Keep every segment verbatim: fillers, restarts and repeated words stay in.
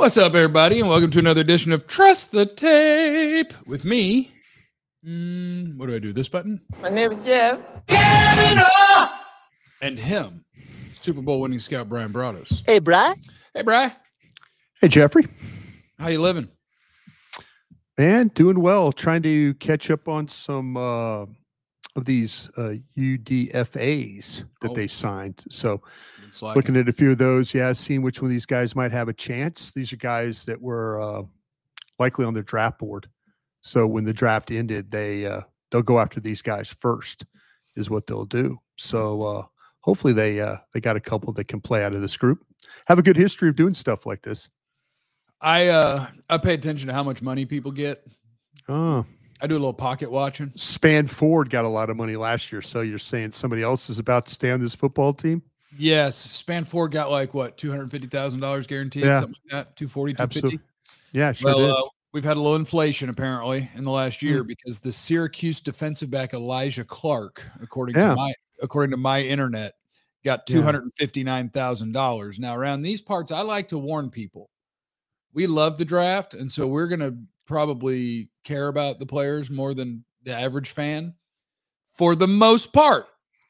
What's up, everybody, and welcome to another edition of Trust the Tape with me. Mm, what do I do? This button? My name is Jeff. And him, Super Bowl winning scout Brian Broaddus. Hey, Bri. Hey, Bri. Hey, Jeffrey. How you living? Man, doing well. Trying to catch up on some uh, of these uh, U D F As that Oh. they signed. So Been slacking. looking at a few of those, yeah, seeing which one of these guys might have a chance. These are guys that were uh, likely on their draft board. So when the draft ended, they uh, they'll go after these guys first, is what they'll do. So uh, hopefully they uh, they got a couple that can play out of this group. Have a good history of doing stuff like this. I uh, I pay attention to how much money people get. Oh, I do a little pocket watching. Span Ford got a lot of money last year. So you're saying somebody else is about to stay on this football team? Yes, Span Ford got like what two hundred fifty thousand dollars guaranteed, Yeah. something like that. Two forty, two Absolutely. fifty. Yeah, sure Well, did. uh, we've had a little inflation apparently in the last year Mm. because the Syracuse defensive back Elijah Clark, according Yeah. to my according to my internet, got Yeah. two hundred and fifty nine thousand dollars. Now, around these parts, I like to warn people. We love the draft, and so we're going to probably care about the players more than the average fan. For the most part,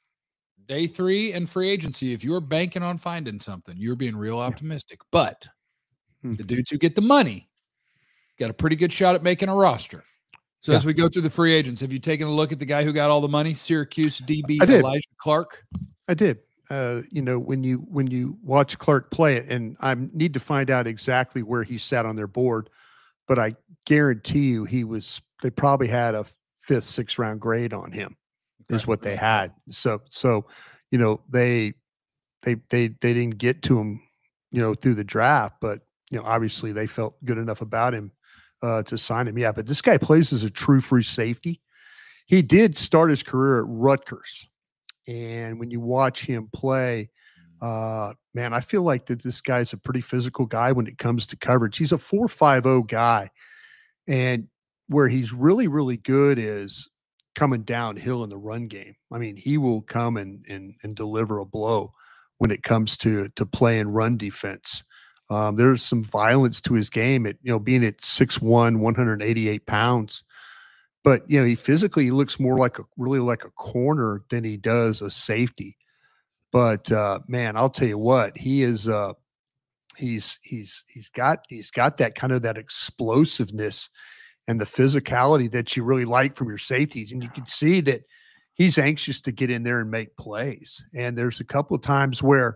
day three and free agency, if you're banking on finding something, you're being real optimistic. But Hmm. the dudes who get the money got a pretty good shot at making a roster. So Yeah. as we go through the free agents, have you taken a look at the guy who got all the money, Syracuse D B I did. Elijah Clark? I did. Uh, you know, when you when you watch Clark play it, and I need to find out exactly where he sat on their board, but I guarantee you he was. They probably had a fifth, sixth round grade on him, is Okay. what they had. So, so you know, they they they they didn't get to him, you know, through the draft, but you know, obviously they felt good enough about him uh, to sign him. Yeah, but this guy plays as a true free safety. He did start his career at Rutgers. And when you watch him play, uh, man, I feel like that this guy's a pretty physical guy when it comes to coverage. He's a four five oh guy. And where he's really, really good is coming downhill in the run game. I mean, he will come and and, and deliver a blow when it comes to to playing run defense. Um, there's some violence to his game at, you know, being at six one, one hundred eighty-eight pounds. But, you know, he physically he looks more like a really like a corner than he does a safety. But uh, man, I'll tell you what, he is uh, he's he's he's got he's got that kind of that explosiveness and the physicality that you really like from your safeties. And you can see that he's anxious to get in there and make plays. And there's a couple of times where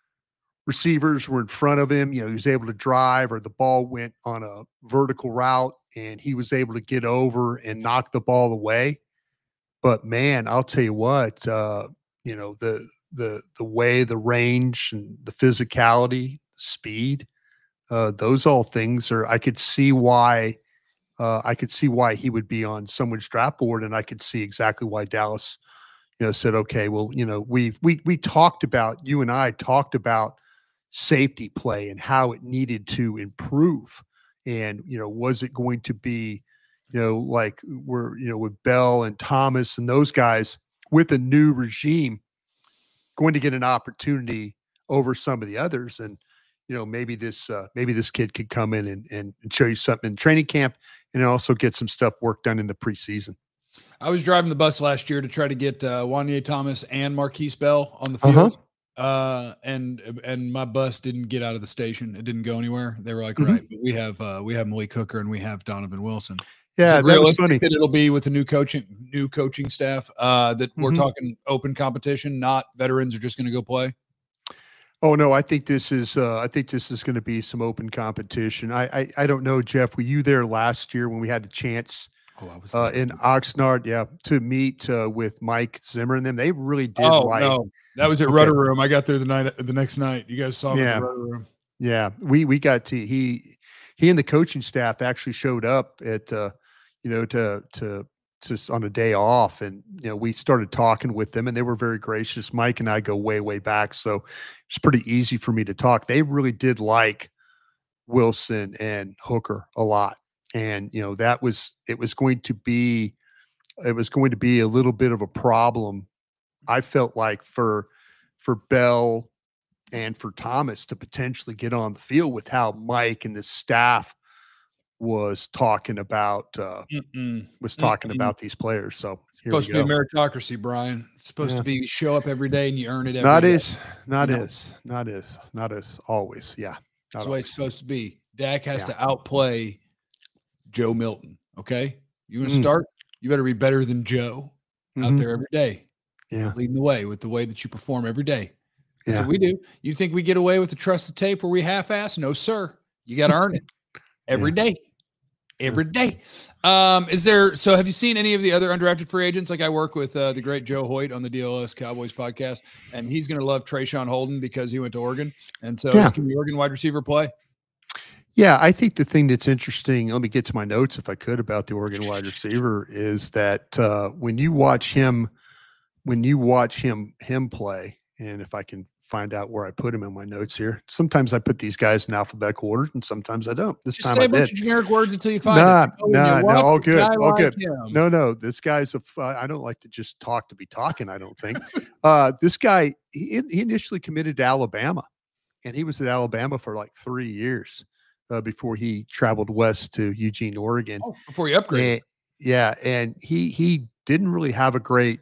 receivers were in front of him, you know, he was able to drive, or the ball went on a vertical route and he was able to get over and knock the ball away. But man, I'll tell you what, uh, you know, the the the way, the range and the physicality, speed, uh, those all things are, I could see why uh, I could see why he would be on someone's draft board, and I could see exactly why Dallas, you know, said, okay, well, you know, we we we talked about, you and I talked about safety play and how it needed to improve. And, you know, was it going to be, you know, like we're, you know, with Bell and Thomas and those guys with a new regime going to get an opportunity over some of the others? And, you know, maybe this, uh, maybe this kid could come in and, and, and show you something in training camp and also get some stuff work done in the preseason. I was driving the bus last year to try to get uh, Wanye Thomas and Marquise Bell on the field. Uh-huh. Uh, and and my bus didn't get out of the station. It didn't go anywhere. They were like, Mhm. right, but we have uh, we have Malik Hooker and we have Donovan Wilson. Yeah, Is it that was realistic funny. that it'll be with the new coaching new coaching staff? Uh, that we're Mhm. talking open competition, not veterans are just going to go play. Oh no, I think this is uh, I think this is going to be some open competition. I, I I don't know, Jeff. Were you there last year when we had the chance Oh, I was uh, there. in Oxnard? Yeah, to meet uh, with Mike Zimmer and them. They really did Oh like. no, that was at Okay. Rudder Room. I got there the night the next night. You guys saw me Yeah. at the Rudder Room. Yeah, we we got to he he and the coaching staff actually showed up at uh, you know to to just on a day off, and you know we started talking with them, and they were very gracious. Mike and I go way way back, so it's pretty easy for me to talk. They really did like Wilson and Hooker a lot, and you know that was it was going to be it was going to be a little bit of a problem. I felt like for for Bell, and for Thomas to potentially get on the field with how Mike and the staff was talking about uh, Mm-mm. was talking Mm-mm. about these players. So here supposed we to go. be meritocracy, Brian. It's supposed yeah. to be you show up every day and you earn it every not day. As, not you as, know? not as, not as always. Yeah. That's the way it's supposed to be. Dak has yeah. to outplay Joe Milton. Okay. You want to mm. start? You better be better than Joe mm-hmm. out there every day. Yeah. Leading the way with the way that you perform every day. That's yeah. what we do. You think we get away with the trusted tape where we half-ass? No, sir. You got to earn it every yeah. day. Every day. Um, is there, so have you seen any of the other undrafted free agents? Like I work with uh, the great Joe Hoyt on the D L S Cowboys podcast, and he's going to love Trayshawn Holden because he went to Oregon. And so yeah. can the Oregon wide receiver play? Yeah, I think the thing that's interesting, let me get to my notes if I could about the Oregon wide receiver, is that uh, when you watch him, when you watch him, him play, and if I can find out where I put him in my notes here. Sometimes I put these guys in alphabetical order, and sometimes I don't. This Just time say I a bunch did. of generic words until you find nah, it. Oh, nah, no, all good, all like good. Him. No, no, this guy's a. Uh, I don't like to just talk to be talking. I don't think. uh, this guy, he, he initially committed to Alabama, and he was at Alabama for like three years uh, before he traveled west to Eugene, Oregon. Oh, before he upgraded. And, yeah, and he he didn't really have a great,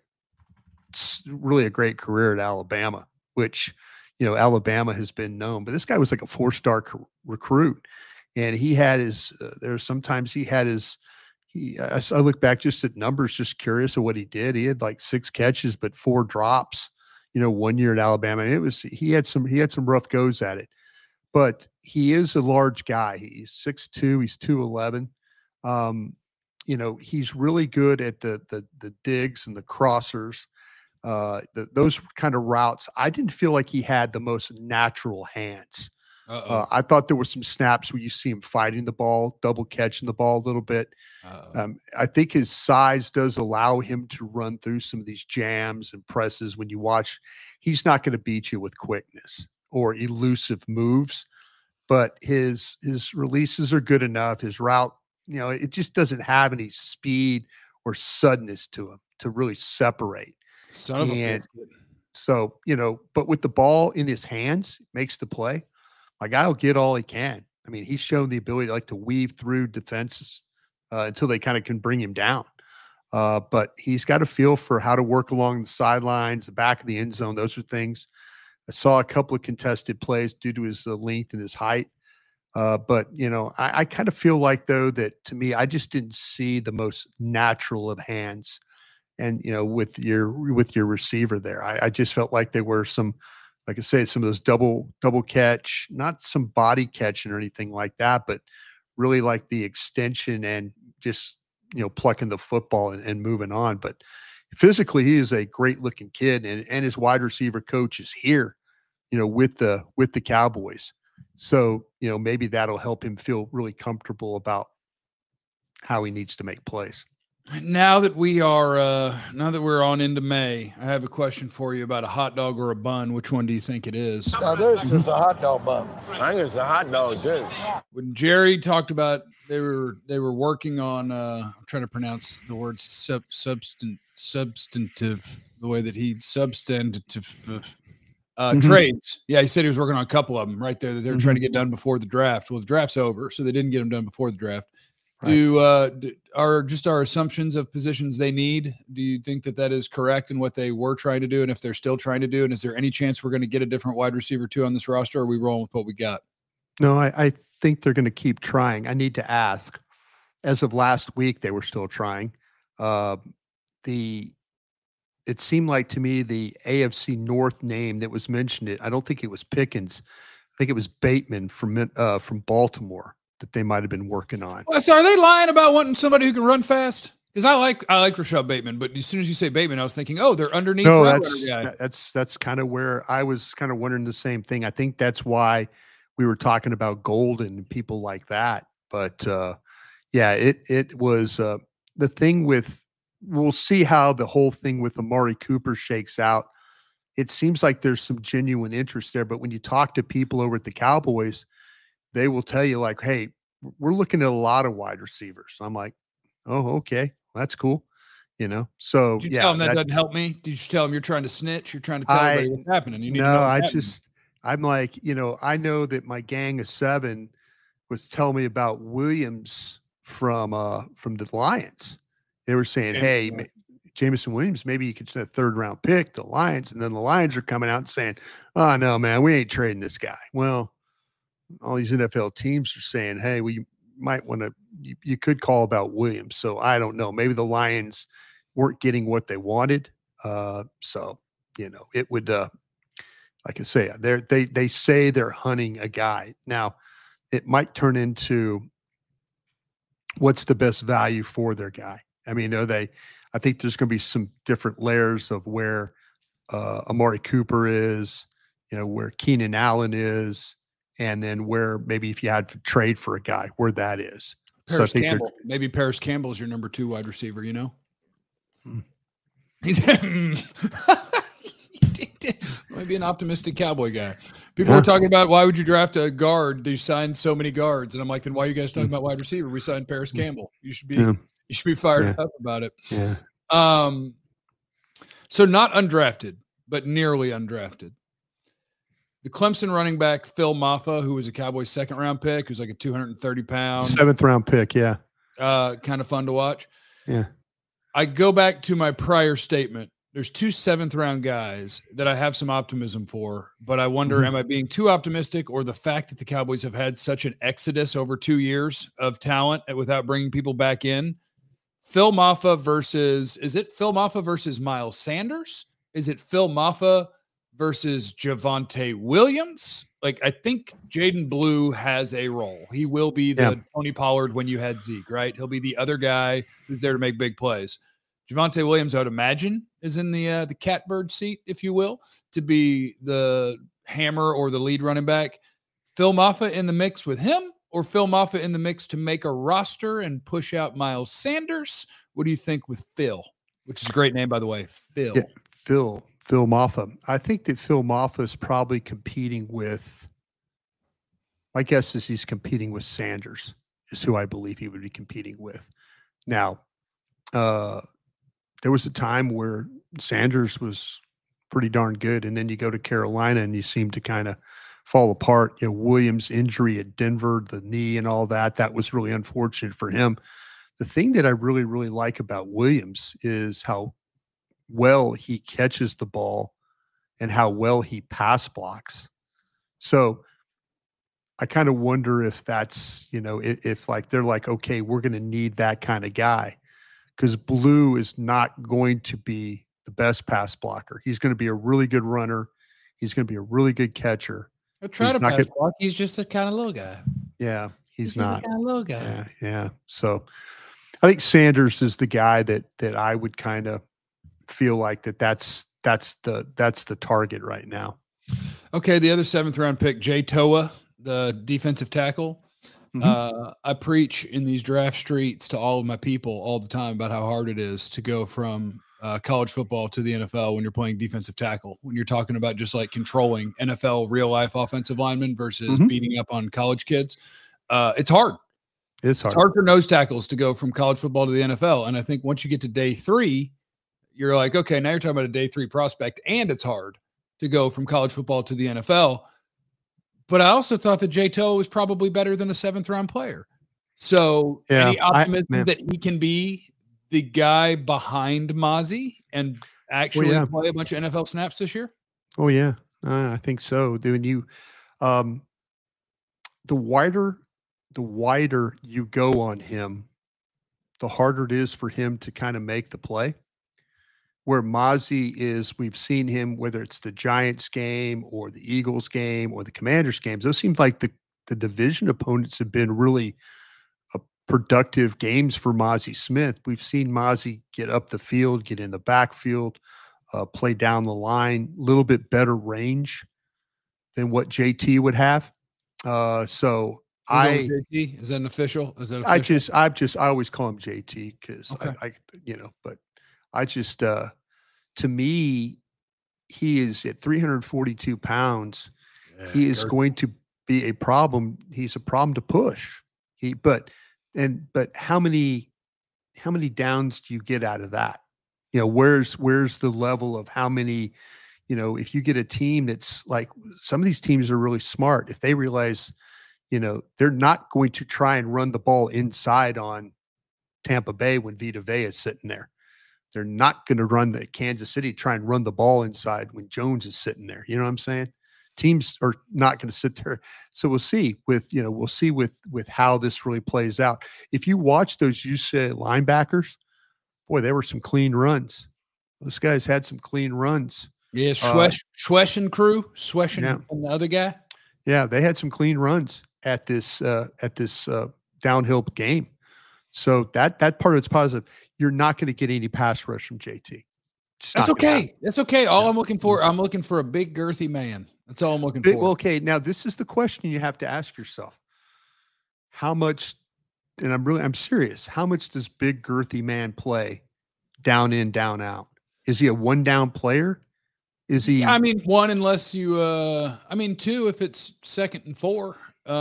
really a great career at Alabama, which. You know, Alabama has been known, but this guy was like a four-star co- recruit, and he had his. Uh, there's sometimes he had his. He. I, I look back just at numbers, just curious of what he did. He had like six catches, but four drops. You know, one year at Alabama, and it was he had some he had some rough goes at it, but he is a large guy. He's six two. He's two eleven. Um, you know, he's really good at the the the digs and the crossers. Uh, the, those kind of routes, I didn't feel like he had the most natural hands. Uh, I thought there were some snaps where you see him fighting the ball, double catching the ball a little bit. Um, I think his size does allow him to run through some of these jams and presses. When you watch, he's not going to beat you with quickness or elusive moves, but his his releases are good enough. His route, you know, it just doesn't have any speed or suddenness to him to really separate. Son of a biscuit. So, you know, but with the ball in his hands, makes the play. My guy will get all he can. I mean, he's shown the ability to like to weave through defenses uh, until they kind of can bring him down. Uh, but he's got a feel for how to work along the sidelines, the back of the end zone. Those are things. I saw a couple of contested plays due to his uh, length and his height. Uh, but, you know, I, I kind of feel like, though, that to me, I just didn't see the most natural of hands. And, you know, with your with your receiver there, I, I just felt like there were some, like I say, some of those double double catch, not some body catching or anything like that, but really like the extension and just, you know, plucking the football and, and moving on. But physically, he is a great looking kid, and and his wide receiver coach is here, you know, with the with the Cowboys. So, you know, maybe that'll help him feel really comfortable about how he needs to make plays. Now that we are, uh, now that we're on into May, I have a question for you about a hot dog or a bun. Which one do you think it is? Now, this is a hot dog bun. I think it's a hot dog too. When Jerry talked about they were they were working on, uh, I'm trying to pronounce the word sub, substan, substantive, the way that he substantive uh, mm-hmm. trades. Yeah, he said he was working on a couple of them right there that they were mm-hmm. trying to get done before the draft. Well, the draft's over, so they didn't get them done before the draft. Right. Do uh do, are just our assumptions of positions they need? Do you think that that is correct in what they were trying to do, and if they're still trying to do? And is there any chance we're going to get a different wide receiver too on this roster? Or are we rolling with what we got? No, I, I think they're going to keep trying. I need to ask. As of last week, they were still trying. Uh, the it seemed like to me the A F C North name that was mentioned. It I don't think it was Pickens. I think it was Bateman from uh, from Baltimore that they might have been working on. Well, so are they lying about wanting somebody who can run fast? Because I like I like Rashad Bateman, but as soon as you say Bateman, I was thinking, oh, they're underneath. No, that's that's that's kind of where I was kind of wondering the same thing. I think that's why we were talking about Golden and people like that. But uh, yeah, it it was uh, the thing with. We'll see how the whole thing with Amari Cooper shakes out. It seems like there's some genuine interest there, but when you talk to people over at the Cowboys, they will tell you like, hey, we're looking at a lot of wide receivers. I'm like, oh, okay, well, that's cool. You know, so did you yeah, tell them that, that doesn't help me? Did you tell them you're trying to snitch? You're trying to tell I, everybody what's happening. You need no, to know I happening. just, I'm like, you know, I know that my gang of seven was telling me about Williams from uh from the Lions. They were saying, James hey, Conner. ma- Jameson Williams, maybe you could send a third round pick to the Lions. And then the Lions are coming out and saying, oh no, man, we ain't trading this guy. Well, all these N F L teams are saying, hey, we might want to, you, you could call about Williams. So I don't know. Maybe the Lions weren't getting what they wanted. Uh, so, you know, it would, uh, like I say, they they they say they're hunting a guy. Now, it might turn into what's the best value for their guy. I mean, are they? I think there's going to be some different layers of where uh, Amari Cooper is, you know, where Keenan Allen is, and then where maybe if you had to trade for a guy, where that is. Paris so I think Campbell. Maybe Paris Campbell is your number two wide receiver, you know? Hmm. He's might be an optimistic Cowboy guy. People Yeah. were talking about why would you draft a guard? You signed so many guards, and I'm like, then why are you guys talking about wide receiver? We signed Paris Campbell. You should be Yeah. you should be fired Yeah. up about it. Yeah. Um, so not undrafted, but nearly undrafted. The Clemson running back Phil Maffa, who was a Cowboys second round pick, who's like a two hundred thirty pound, Seventh round pick. Yeah. uh, kind of fun to watch. Yeah. I go back to my prior statement. There's two seventh round guys that I have some optimism for, but I wonder, Mhm. am I being too optimistic, or the fact that the Cowboys have had such an exodus over two years of talent without bringing people back in? Phil Maffa versus, is it Phil Maffa versus Miles Sanders? Is it Phil Maffa versus Javonte Williams? Like, I think Jaden Blue has a role. He will be the Yeah. Tony Pollard when you had Zeke, right? He'll be the other guy who's there to make big plays. Javonte Williams, I would imagine, is in the uh, the catbird seat, if you will, to be the hammer or the lead running back. Phil Maffa in the mix with him, or Phil Maffa in the mix to make a roster and push out Miles Sanders? What do you think with Phil? Which is a great name, by the way, Phil. Yeah, Phil, Phil Maffa. I think that Phil Maffa is probably competing with, my guess is he's competing with Sanders, is who I believe he would be competing with. Now, uh, there was a time where Sanders was pretty darn good, and then you go to Carolina and you seem to kind of fall apart. You know, Williams' injury at Denver, the knee and all that, that was really unfortunate for him. The thing that I really, really like about Williams is how well he catches the ball and how well he pass blocks. So I kind of wonder if that's, you know, if, if like they're like, okay, we're going to need that kind of guy, because Blue is not going to be the best pass blocker. He's going to be a really good runner. He's going to be a really good catcher. I'll try He's to not pass gonna- block. He's just a kind of little guy. Yeah, he's, He's just not. a kind of little guy. Yeah, yeah. So I think Sanders is the guy that that I would kind of feel like that that's that's the that's the target right now. Okay, the other seventh round pick, Jay Toa, the defensive tackle. Mhm. Uh, I preach in these draft streets to all of my people all the time about how hard it is to go from uh, college football to the N F L when you're playing defensive tackle, when you're talking about just like controlling N F L real life offensive linemen versus Mhm. beating up on college kids. Uh, it's hard. It's hard. It's hard for nose tackles to go from college football to the N F L. And I think once you get to day three, you're like, okay, now you're talking about a day three prospect, and it's hard to go from college football to the N F L. But I also thought that Jay Toa was probably better than a seventh round player. So Yeah, any I- optimism man. that he can be the guy behind Mozzie and actually yeah. play a bunch of N F L snaps this year? Oh yeah, uh, I think so. Doing you, um, the wider, the wider you go on him, the harder it is for him to kind of make the play. Where Mozzie is, we've seen him, whether it's the Giants game or the Eagles game or the Commanders games, those seem like the, the division opponents have been really uh, productive games for Mozzie Smith. We've seen Mozzie get up the field, get in the backfield, uh, play down the line, a little bit better range than what J T would have. Uh, so We'll go I, with J T. Is that an official? Is that official? I just, I just, I always call him J T because Okay. I, I, you know, but I just, uh, to me, he is at three hundred forty-two pounds. Yeah, He is Kirk. going to be a problem. He's a problem to push. He, but, and, but how many, how many downs do you get out of that? You know, where's, where's the level of how many, you know, if you get a team that's like, some of these teams are really smart. If they realize, you know, they're not going to try and run the ball inside on Tampa Bay when Vita Vea is sitting there. They're not going to run the Kansas City, try and run the ball inside when Jones is sitting there. You know what I'm saying? Teams are not going to sit there. So we'll see with, you know, we'll see with, with how this really plays out. If you watch those U C L A linebackers, boy, there were some clean runs. Those guys had some clean runs. Yeah, Schwesh, uh, Schwesh and crew, Schwesh and, yeah. and the other guy. Yeah, they had some clean runs at this uh, at this uh, downhill game. So that that part of it's positive. You're not going to get any pass rush from J T. That's okay. That's okay. All yeah. I'm looking for, I'm looking for a big girthy man. That's all I'm looking big, for. Well, okay, now this is the question you have to ask yourself. How much, and I'm really, I'm serious, how much does big girthy man play down in, down out? Is he a one down player? Is he? I mean, one, unless you, uh, I mean, two, if it's second and four.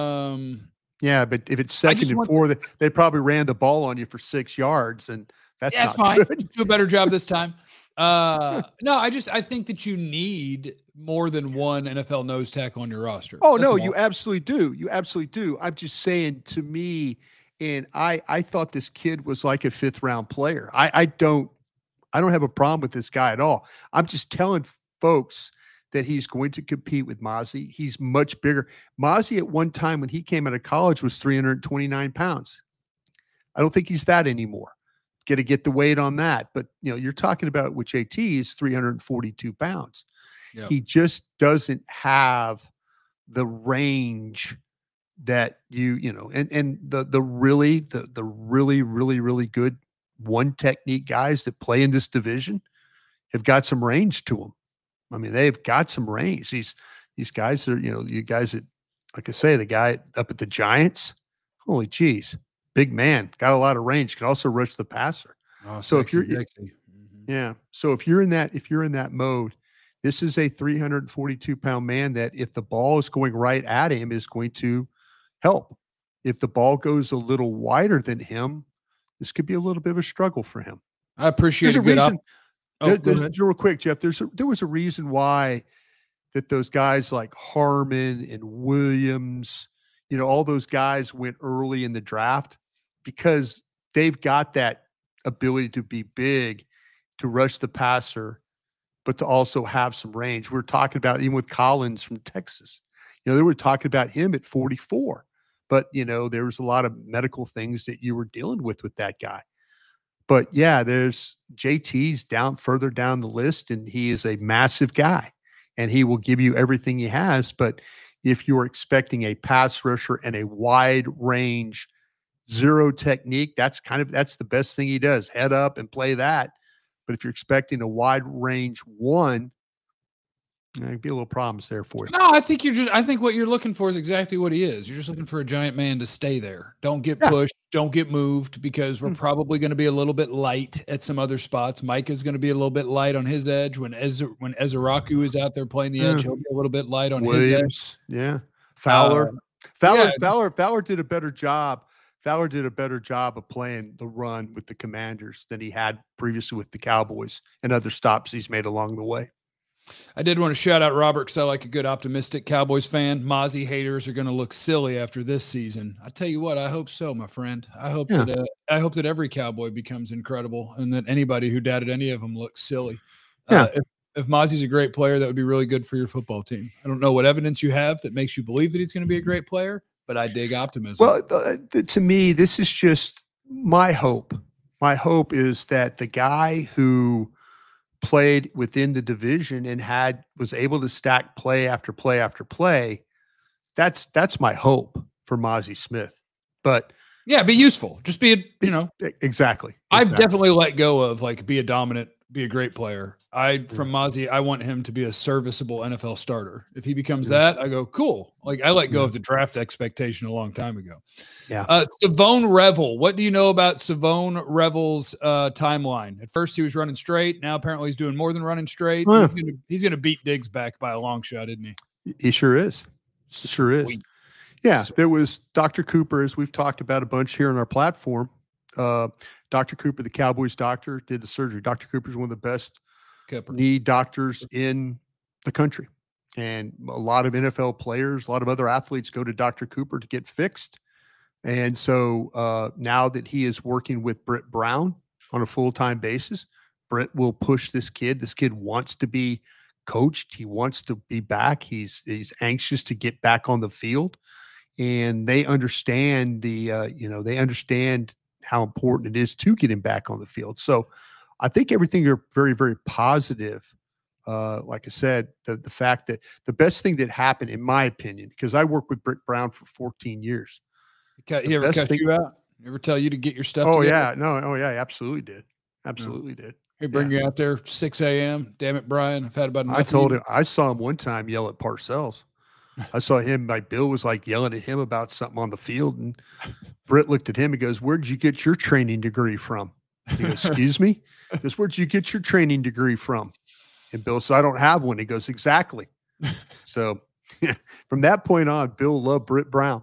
Um, yeah, but if it's second and four, they, they probably ran the ball on you for six yards, and that's, yeah, that's not fine. good. Do a better job this time. Uh, no, I just, I think that you need more than one N F L nose tackle on your roster. Oh, That's no, all. you absolutely do. You absolutely do. I'm just saying, to me, and I, I thought this kid was like a fifth round player. I, I don't, I don't have a problem with this guy at all. I'm just telling folks that he's going to compete with Mazi. He's much bigger. Mazi at one time when he came out of college was three hundred twenty-nine pounds. I don't think he's that anymore. Got to get the weight on that. But, you know, you're talking about with J T is three hundred forty-two pounds. Yep. He just doesn't have the range that you, you know, and, and the, the really, the, the really, really, really good one technique guys that play in this division have got some range to them. I mean, they've got some range. These, these guys are, you know, you guys that, like I say, the guy up at the Giants, holy geez. Big man, got a lot of range, can also rush the passer. Oh, so sexy, if you're, sexy. Mm-hmm. yeah. So if you're in that, if you're in that mode, this is a three hundred forty-two pound man that if the ball is going right at him is going to help. If the ball goes a little wider than him, this could be a little bit of a struggle for him. I appreciate there's a, a good reason. Op- oh, there, there's, real quick, Jeff, there's a, there was a reason why that those guys like Harmon and Williams, you know, all those guys went early in the draft, because they've got that ability to be big, to rush the passer, but to also have some range. We're talking about even with Collins from Texas. You know, they were talking about him at forty-four, but, you know, there was a lot of medical things that you were dealing with with that guy. But, yeah, there's J T's down further down the list, and he is a massive guy, and he will give you everything he has. But if you're expecting a pass rusher and a wide range zero technique, that's kind of, that's the best thing he does, head up and play that. But if you're expecting a wide range one, there could be a little problems there for you. No, I think you're just, I think what you're looking for is exactly what he is. You're just looking for a giant man to stay there. Don't get yeah. pushed. Don't get moved, because we're mm-hmm. probably going to be a little bit light at some other spots. Mike is going to be a little bit light on his edge. When Ez- when Ezeraku is out there playing the edge, yeah. he'll be a little bit light on Williams, his edge. Yeah. Fowler. Uh, Fowler, yeah. Fowler, Fowler did a better job. Fowler did a better job of playing the run with the Commanders than he had previously with the Cowboys and other stops he's made along the way. I did want to shout out Robert, because I like a good optimistic Cowboys fan. Mozzie haters are going to look silly after this season. I tell you what, I hope so, my friend. I hope yeah. that uh, I hope that every Cowboy becomes incredible, and that anybody who doubted any of them looks silly. Yeah. Uh, if, if Mozzie's a great player, that would be really good for your football team. I don't know what evidence you have that makes you believe that he's going to be a great player, but I dig optimism. Well, uh, th- to me, this is just my hope. My hope is that the guy who played within the division and had was able to stack play after play after play, that's that's my hope for Mazi Smith. But yeah, be useful. Just be a, you know, exactly. I've exactly. definitely let go of like be a dominant, be a great player. I from Mozzie, I want him to be a serviceable N F L starter. If he becomes yeah. that, I go cool. Like I let go yeah. of the draft expectation a long time ago. Yeah. Uh, Savone Revel. What do you know about Savone Revel's uh, timeline? At first, he was running straight. Now, apparently, he's doing more than running straight. Oh, yeah. He's gonna he's gonna beat Diggs back by a long shot, isn't he? He sure is. He sure is. Sweet. Yeah. Sweet. There was Doctor Cooper, as we've talked about a bunch here on our platform. Uh, Doctor Cooper, the Cowboys doctor, did the surgery. Doctor Cooper is one of the best Cooper. knee doctors in the country. And a lot of N F L players, a lot of other athletes go to Doctor Cooper to get fixed. And so uh, now that he is working with Britt Brown on a full-time basis, Britt will push this kid. This kid wants to be coached. He wants to be back. He's he's anxious to get back on the field. And they understand the, uh, you know, they understand how important it is to get him back on the field. So I think everything are very, very positive. Uh, like I said, the, the fact that the best thing that happened, in my opinion, because I worked with Britt Brown for fourteen years. He ever cut thing, you out? Ever tell you to get your stuff Oh, together? yeah. No, oh, yeah, absolutely did. Absolutely no. did. He bring yeah. you out there six a.m. Damn it, Brian. I've had about enough. I told him, I saw him one time yell at Parcells. I saw him, like Bill was like yelling at him about something on the field. And Britt looked at him and goes, "Where'd you get your training degree from?" He goes, "Excuse me?" He goes, "Where'd you get your training degree from?" And Bill said, "I don't have one." He goes, "Exactly." So from that point on, Bill loved Britt Brown.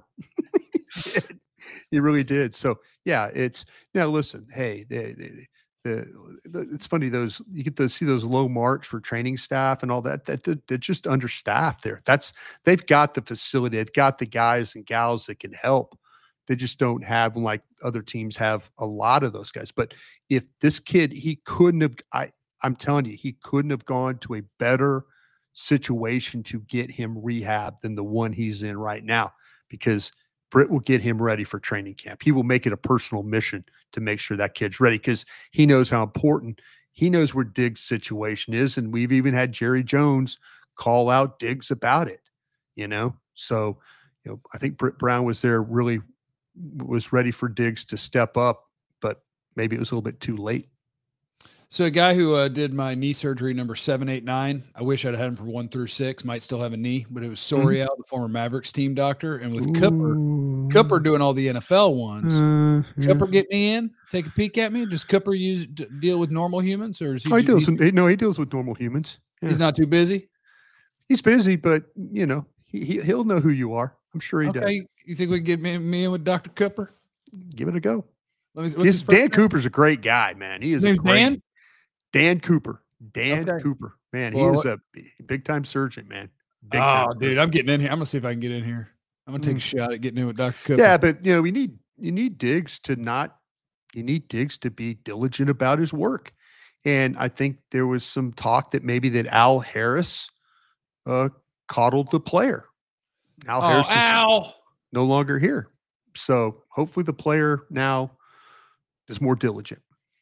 He really did. So yeah, it's now listen, hey, they, they, the, the it's funny, those you get to see those low marks for training staff and all that, that they're just understaffed there. That's they've got the facility, they've got the guys and gals that can help. They just don't have, like other teams have, a lot of those guys. But if this kid, he couldn't have, I, I'm telling you, he couldn't have gone to a better situation to get him rehab than the one he's in right now, because Britt will get him ready for training camp. He will make it a personal mission to make sure that kid's ready, because he knows how important, he knows where Diggs' situation is. And we've even had Jerry Jones call out Diggs about it, you know? So, you know, I think Britt Brown was there, really was ready for Diggs to step up, but maybe it was a little bit too late. So a guy who uh, did my knee surgery number seven, eight, nine, I wish I'd had him for one through six, might still have a knee, but it was Sorial, mm-hmm. the former Mavericks team doctor. And with Ooh. Cooper, Cooper doing all the N F L ones, uh, yeah. Cooper get me in, take a peek at me. Does Cooper use d- deal with normal humans, or is he? Oh, he deals with, no, he deals with normal humans. Yeah. He's not too busy. He's busy, but you know, he, he he'll know who you are. I'm sure he okay. does. You think we can get me, me in with Doctor Cooper? Give it a go. Let me, his, his Dan name? Cooper's a great guy, man. He is. His name's a great, Dan? Dan Cooper. Dan okay. Cooper. Man, well, he was a big time surgeon, man. Big oh, dude, surgeon. I'm getting in here. I'm gonna see if I can get in here. I'm gonna take mm. a shot at getting in with Doctor Cooper. Yeah, but you know, we need you need Diggs to not you need Diggs to be diligent about his work. And I think there was some talk that maybe that Al Harris uh coddled the player. Al oh, Harris is Al. no longer here. So hopefully the player now is more diligent.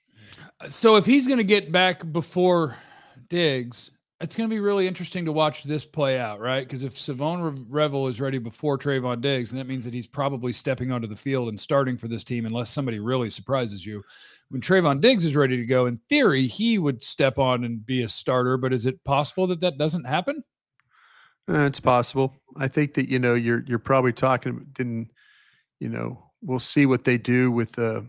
So if he's going to get back before Diggs, it's going to be really interesting to watch this play out, right? Because if Savon Revel is ready before Trayvon Diggs, then that means that he's probably stepping onto the field and starting for this team, unless somebody really surprises you. When Trayvon Diggs is ready to go, in theory, he would step on and be a starter. But is it possible that that doesn't happen? Uh, it's possible. I think that, you know, you're you're probably talking, didn't, you know, we'll see what they do with the,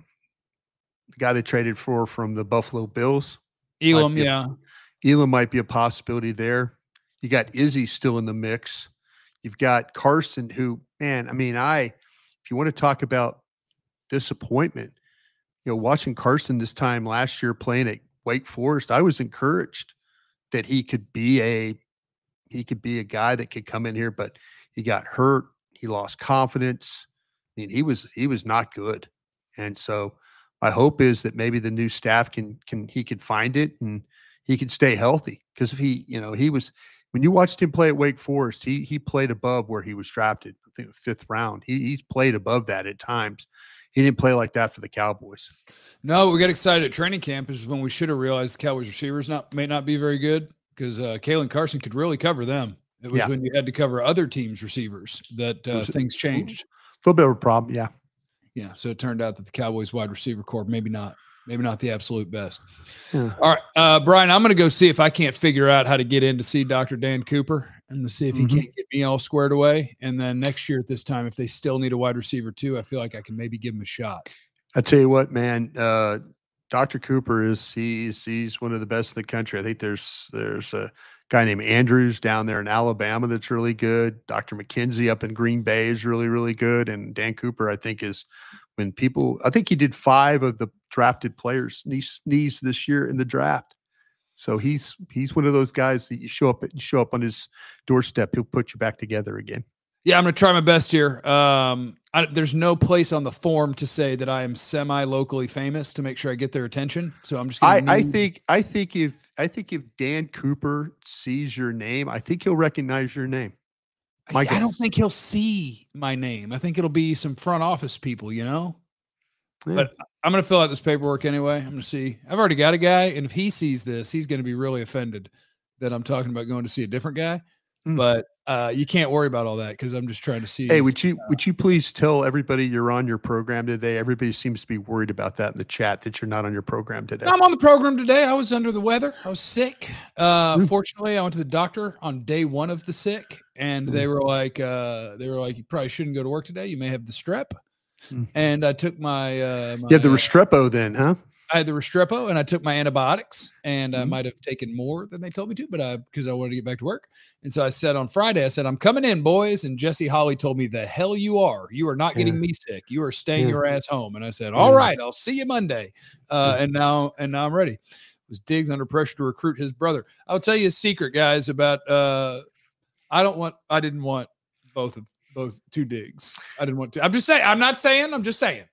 the guy they traded for from the Buffalo Bills. Elam, yeah. A, Elam might be a possibility there. You got Izzy still in the mix. You've got Carson, who, man, I mean, I, if you want to talk about disappointment, you know, watching Carson this time last year playing at Wake Forest, I was encouraged that he could be a, he could be a guy that could come in here, but he got hurt. He lost confidence. I mean, he was, he was not good. And so my hope is that maybe the new staff can, can, he could find it and he could stay healthy. Cause if he, you know, he was, when you watched him play at Wake Forest, he, he played above where he was drafted. I think fifth round. He, he's played above that at times. He didn't play like that for the Cowboys. No, we got excited at training camp is when we should have realized the Cowboys receivers not may not be very good, because uh, Kalen Carson could really cover them. It was yeah. when you had to cover other teams' receivers that uh, things changed. A little bit of a problem, yeah. Yeah, so it turned out that the Cowboys wide receiver corps, maybe not, maybe not the absolute best. Yeah. All right, uh, Brian, I'm going to go see if I can't figure out how to get in to see Doctor Dan Cooper. I'm going to see if he mm-hmm. can't get me all squared away. And then next year at this time, if they still need a wide receiver too, I feel like I can maybe give him a shot. I tell you what, man, uh, Doctor Cooper is he's he's one of the best in the country. I think there's there's a guy named Andrews down there in Alabama that's really good. Doctor McKenzie up in Green Bay is really, really good. And Dan Cooper, I think, is when people – I think he did five of the drafted players' knees, knees this year in the draft. So he's he's one of those guys that you show up you show up on his doorstep, he'll put you back together again. Yeah, I'm going to try my best here. Um, I, there's no place on the form to say that I am semi-locally famous to make sure I get their attention. So I'm just going to. I, I think I think if I think if Dan Cooper sees your name, I think he'll recognize your name. I, I don't think he'll see my name. I think it'll be some front office people, you know. Yeah. But I'm going to fill out this paperwork anyway. I'm going to see. I've already got a guy, and if he sees this, he's going to be really offended that I'm talking about going to see a different guy. Mm. But uh, you can't worry about all that because I'm just trying to see. Hey, would you uh, would you please tell everybody you're on your program today? Everybody seems to be worried about that in the chat that you're not on your program today. I'm on the program today. I was under the weather. I was sick. Uh, mm. Fortunately, I went to the doctor on day one of the sick, and mm. they were like, uh, they were like, you probably shouldn't go to work today. You may have the strep. Mm. And I took my, uh, my you had the Restrepo then, huh? I had the Restrepo, and I took my antibiotics, and mm-hmm. I might have taken more than they told me to, but I because I wanted to get back to work. And so I said on Friday, I said, I'm coming in, boys. And Jesse Holly told me, the hell you are. You are not getting yeah. me sick. You are staying yeah. your ass home. And I said, all yeah. right, I'll see you Monday. Uh, yeah. And now, and now I'm ready. Was Diggs under pressure to recruit his brother? I'll tell you a secret, guys, about uh, I don't want, I didn't want both of both two Diggs. I didn't want to. I'm just saying. I'm not saying. I'm just saying.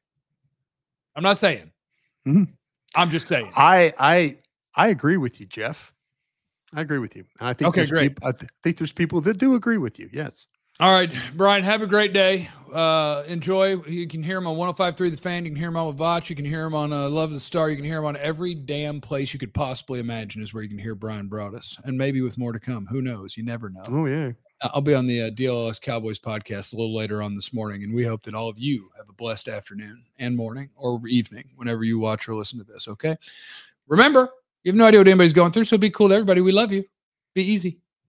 I'm not saying. Mm-hmm. I'm just saying. I I I agree with you, Jeff. I agree with you. And I think okay, great. People, I th- think there's people that do agree with you. Yes. All right, Brian. Have a great day. Uh, enjoy. You can hear him on one oh five point three The Fan. You can hear him on Vach. You can hear him on uh, Love the Star. You can hear him on every damn place you could possibly imagine is where you can hear Brian Broaddus, and maybe with more to come. Who knows? You never know. Oh yeah. I'll be on the uh, D L S Cowboys podcast a little later on this morning, and we hope that all of you have a blessed afternoon and morning or evening whenever you watch or listen to this, okay? Remember, you have no idea what anybody's going through, so be cool to everybody. We love you. Be easy.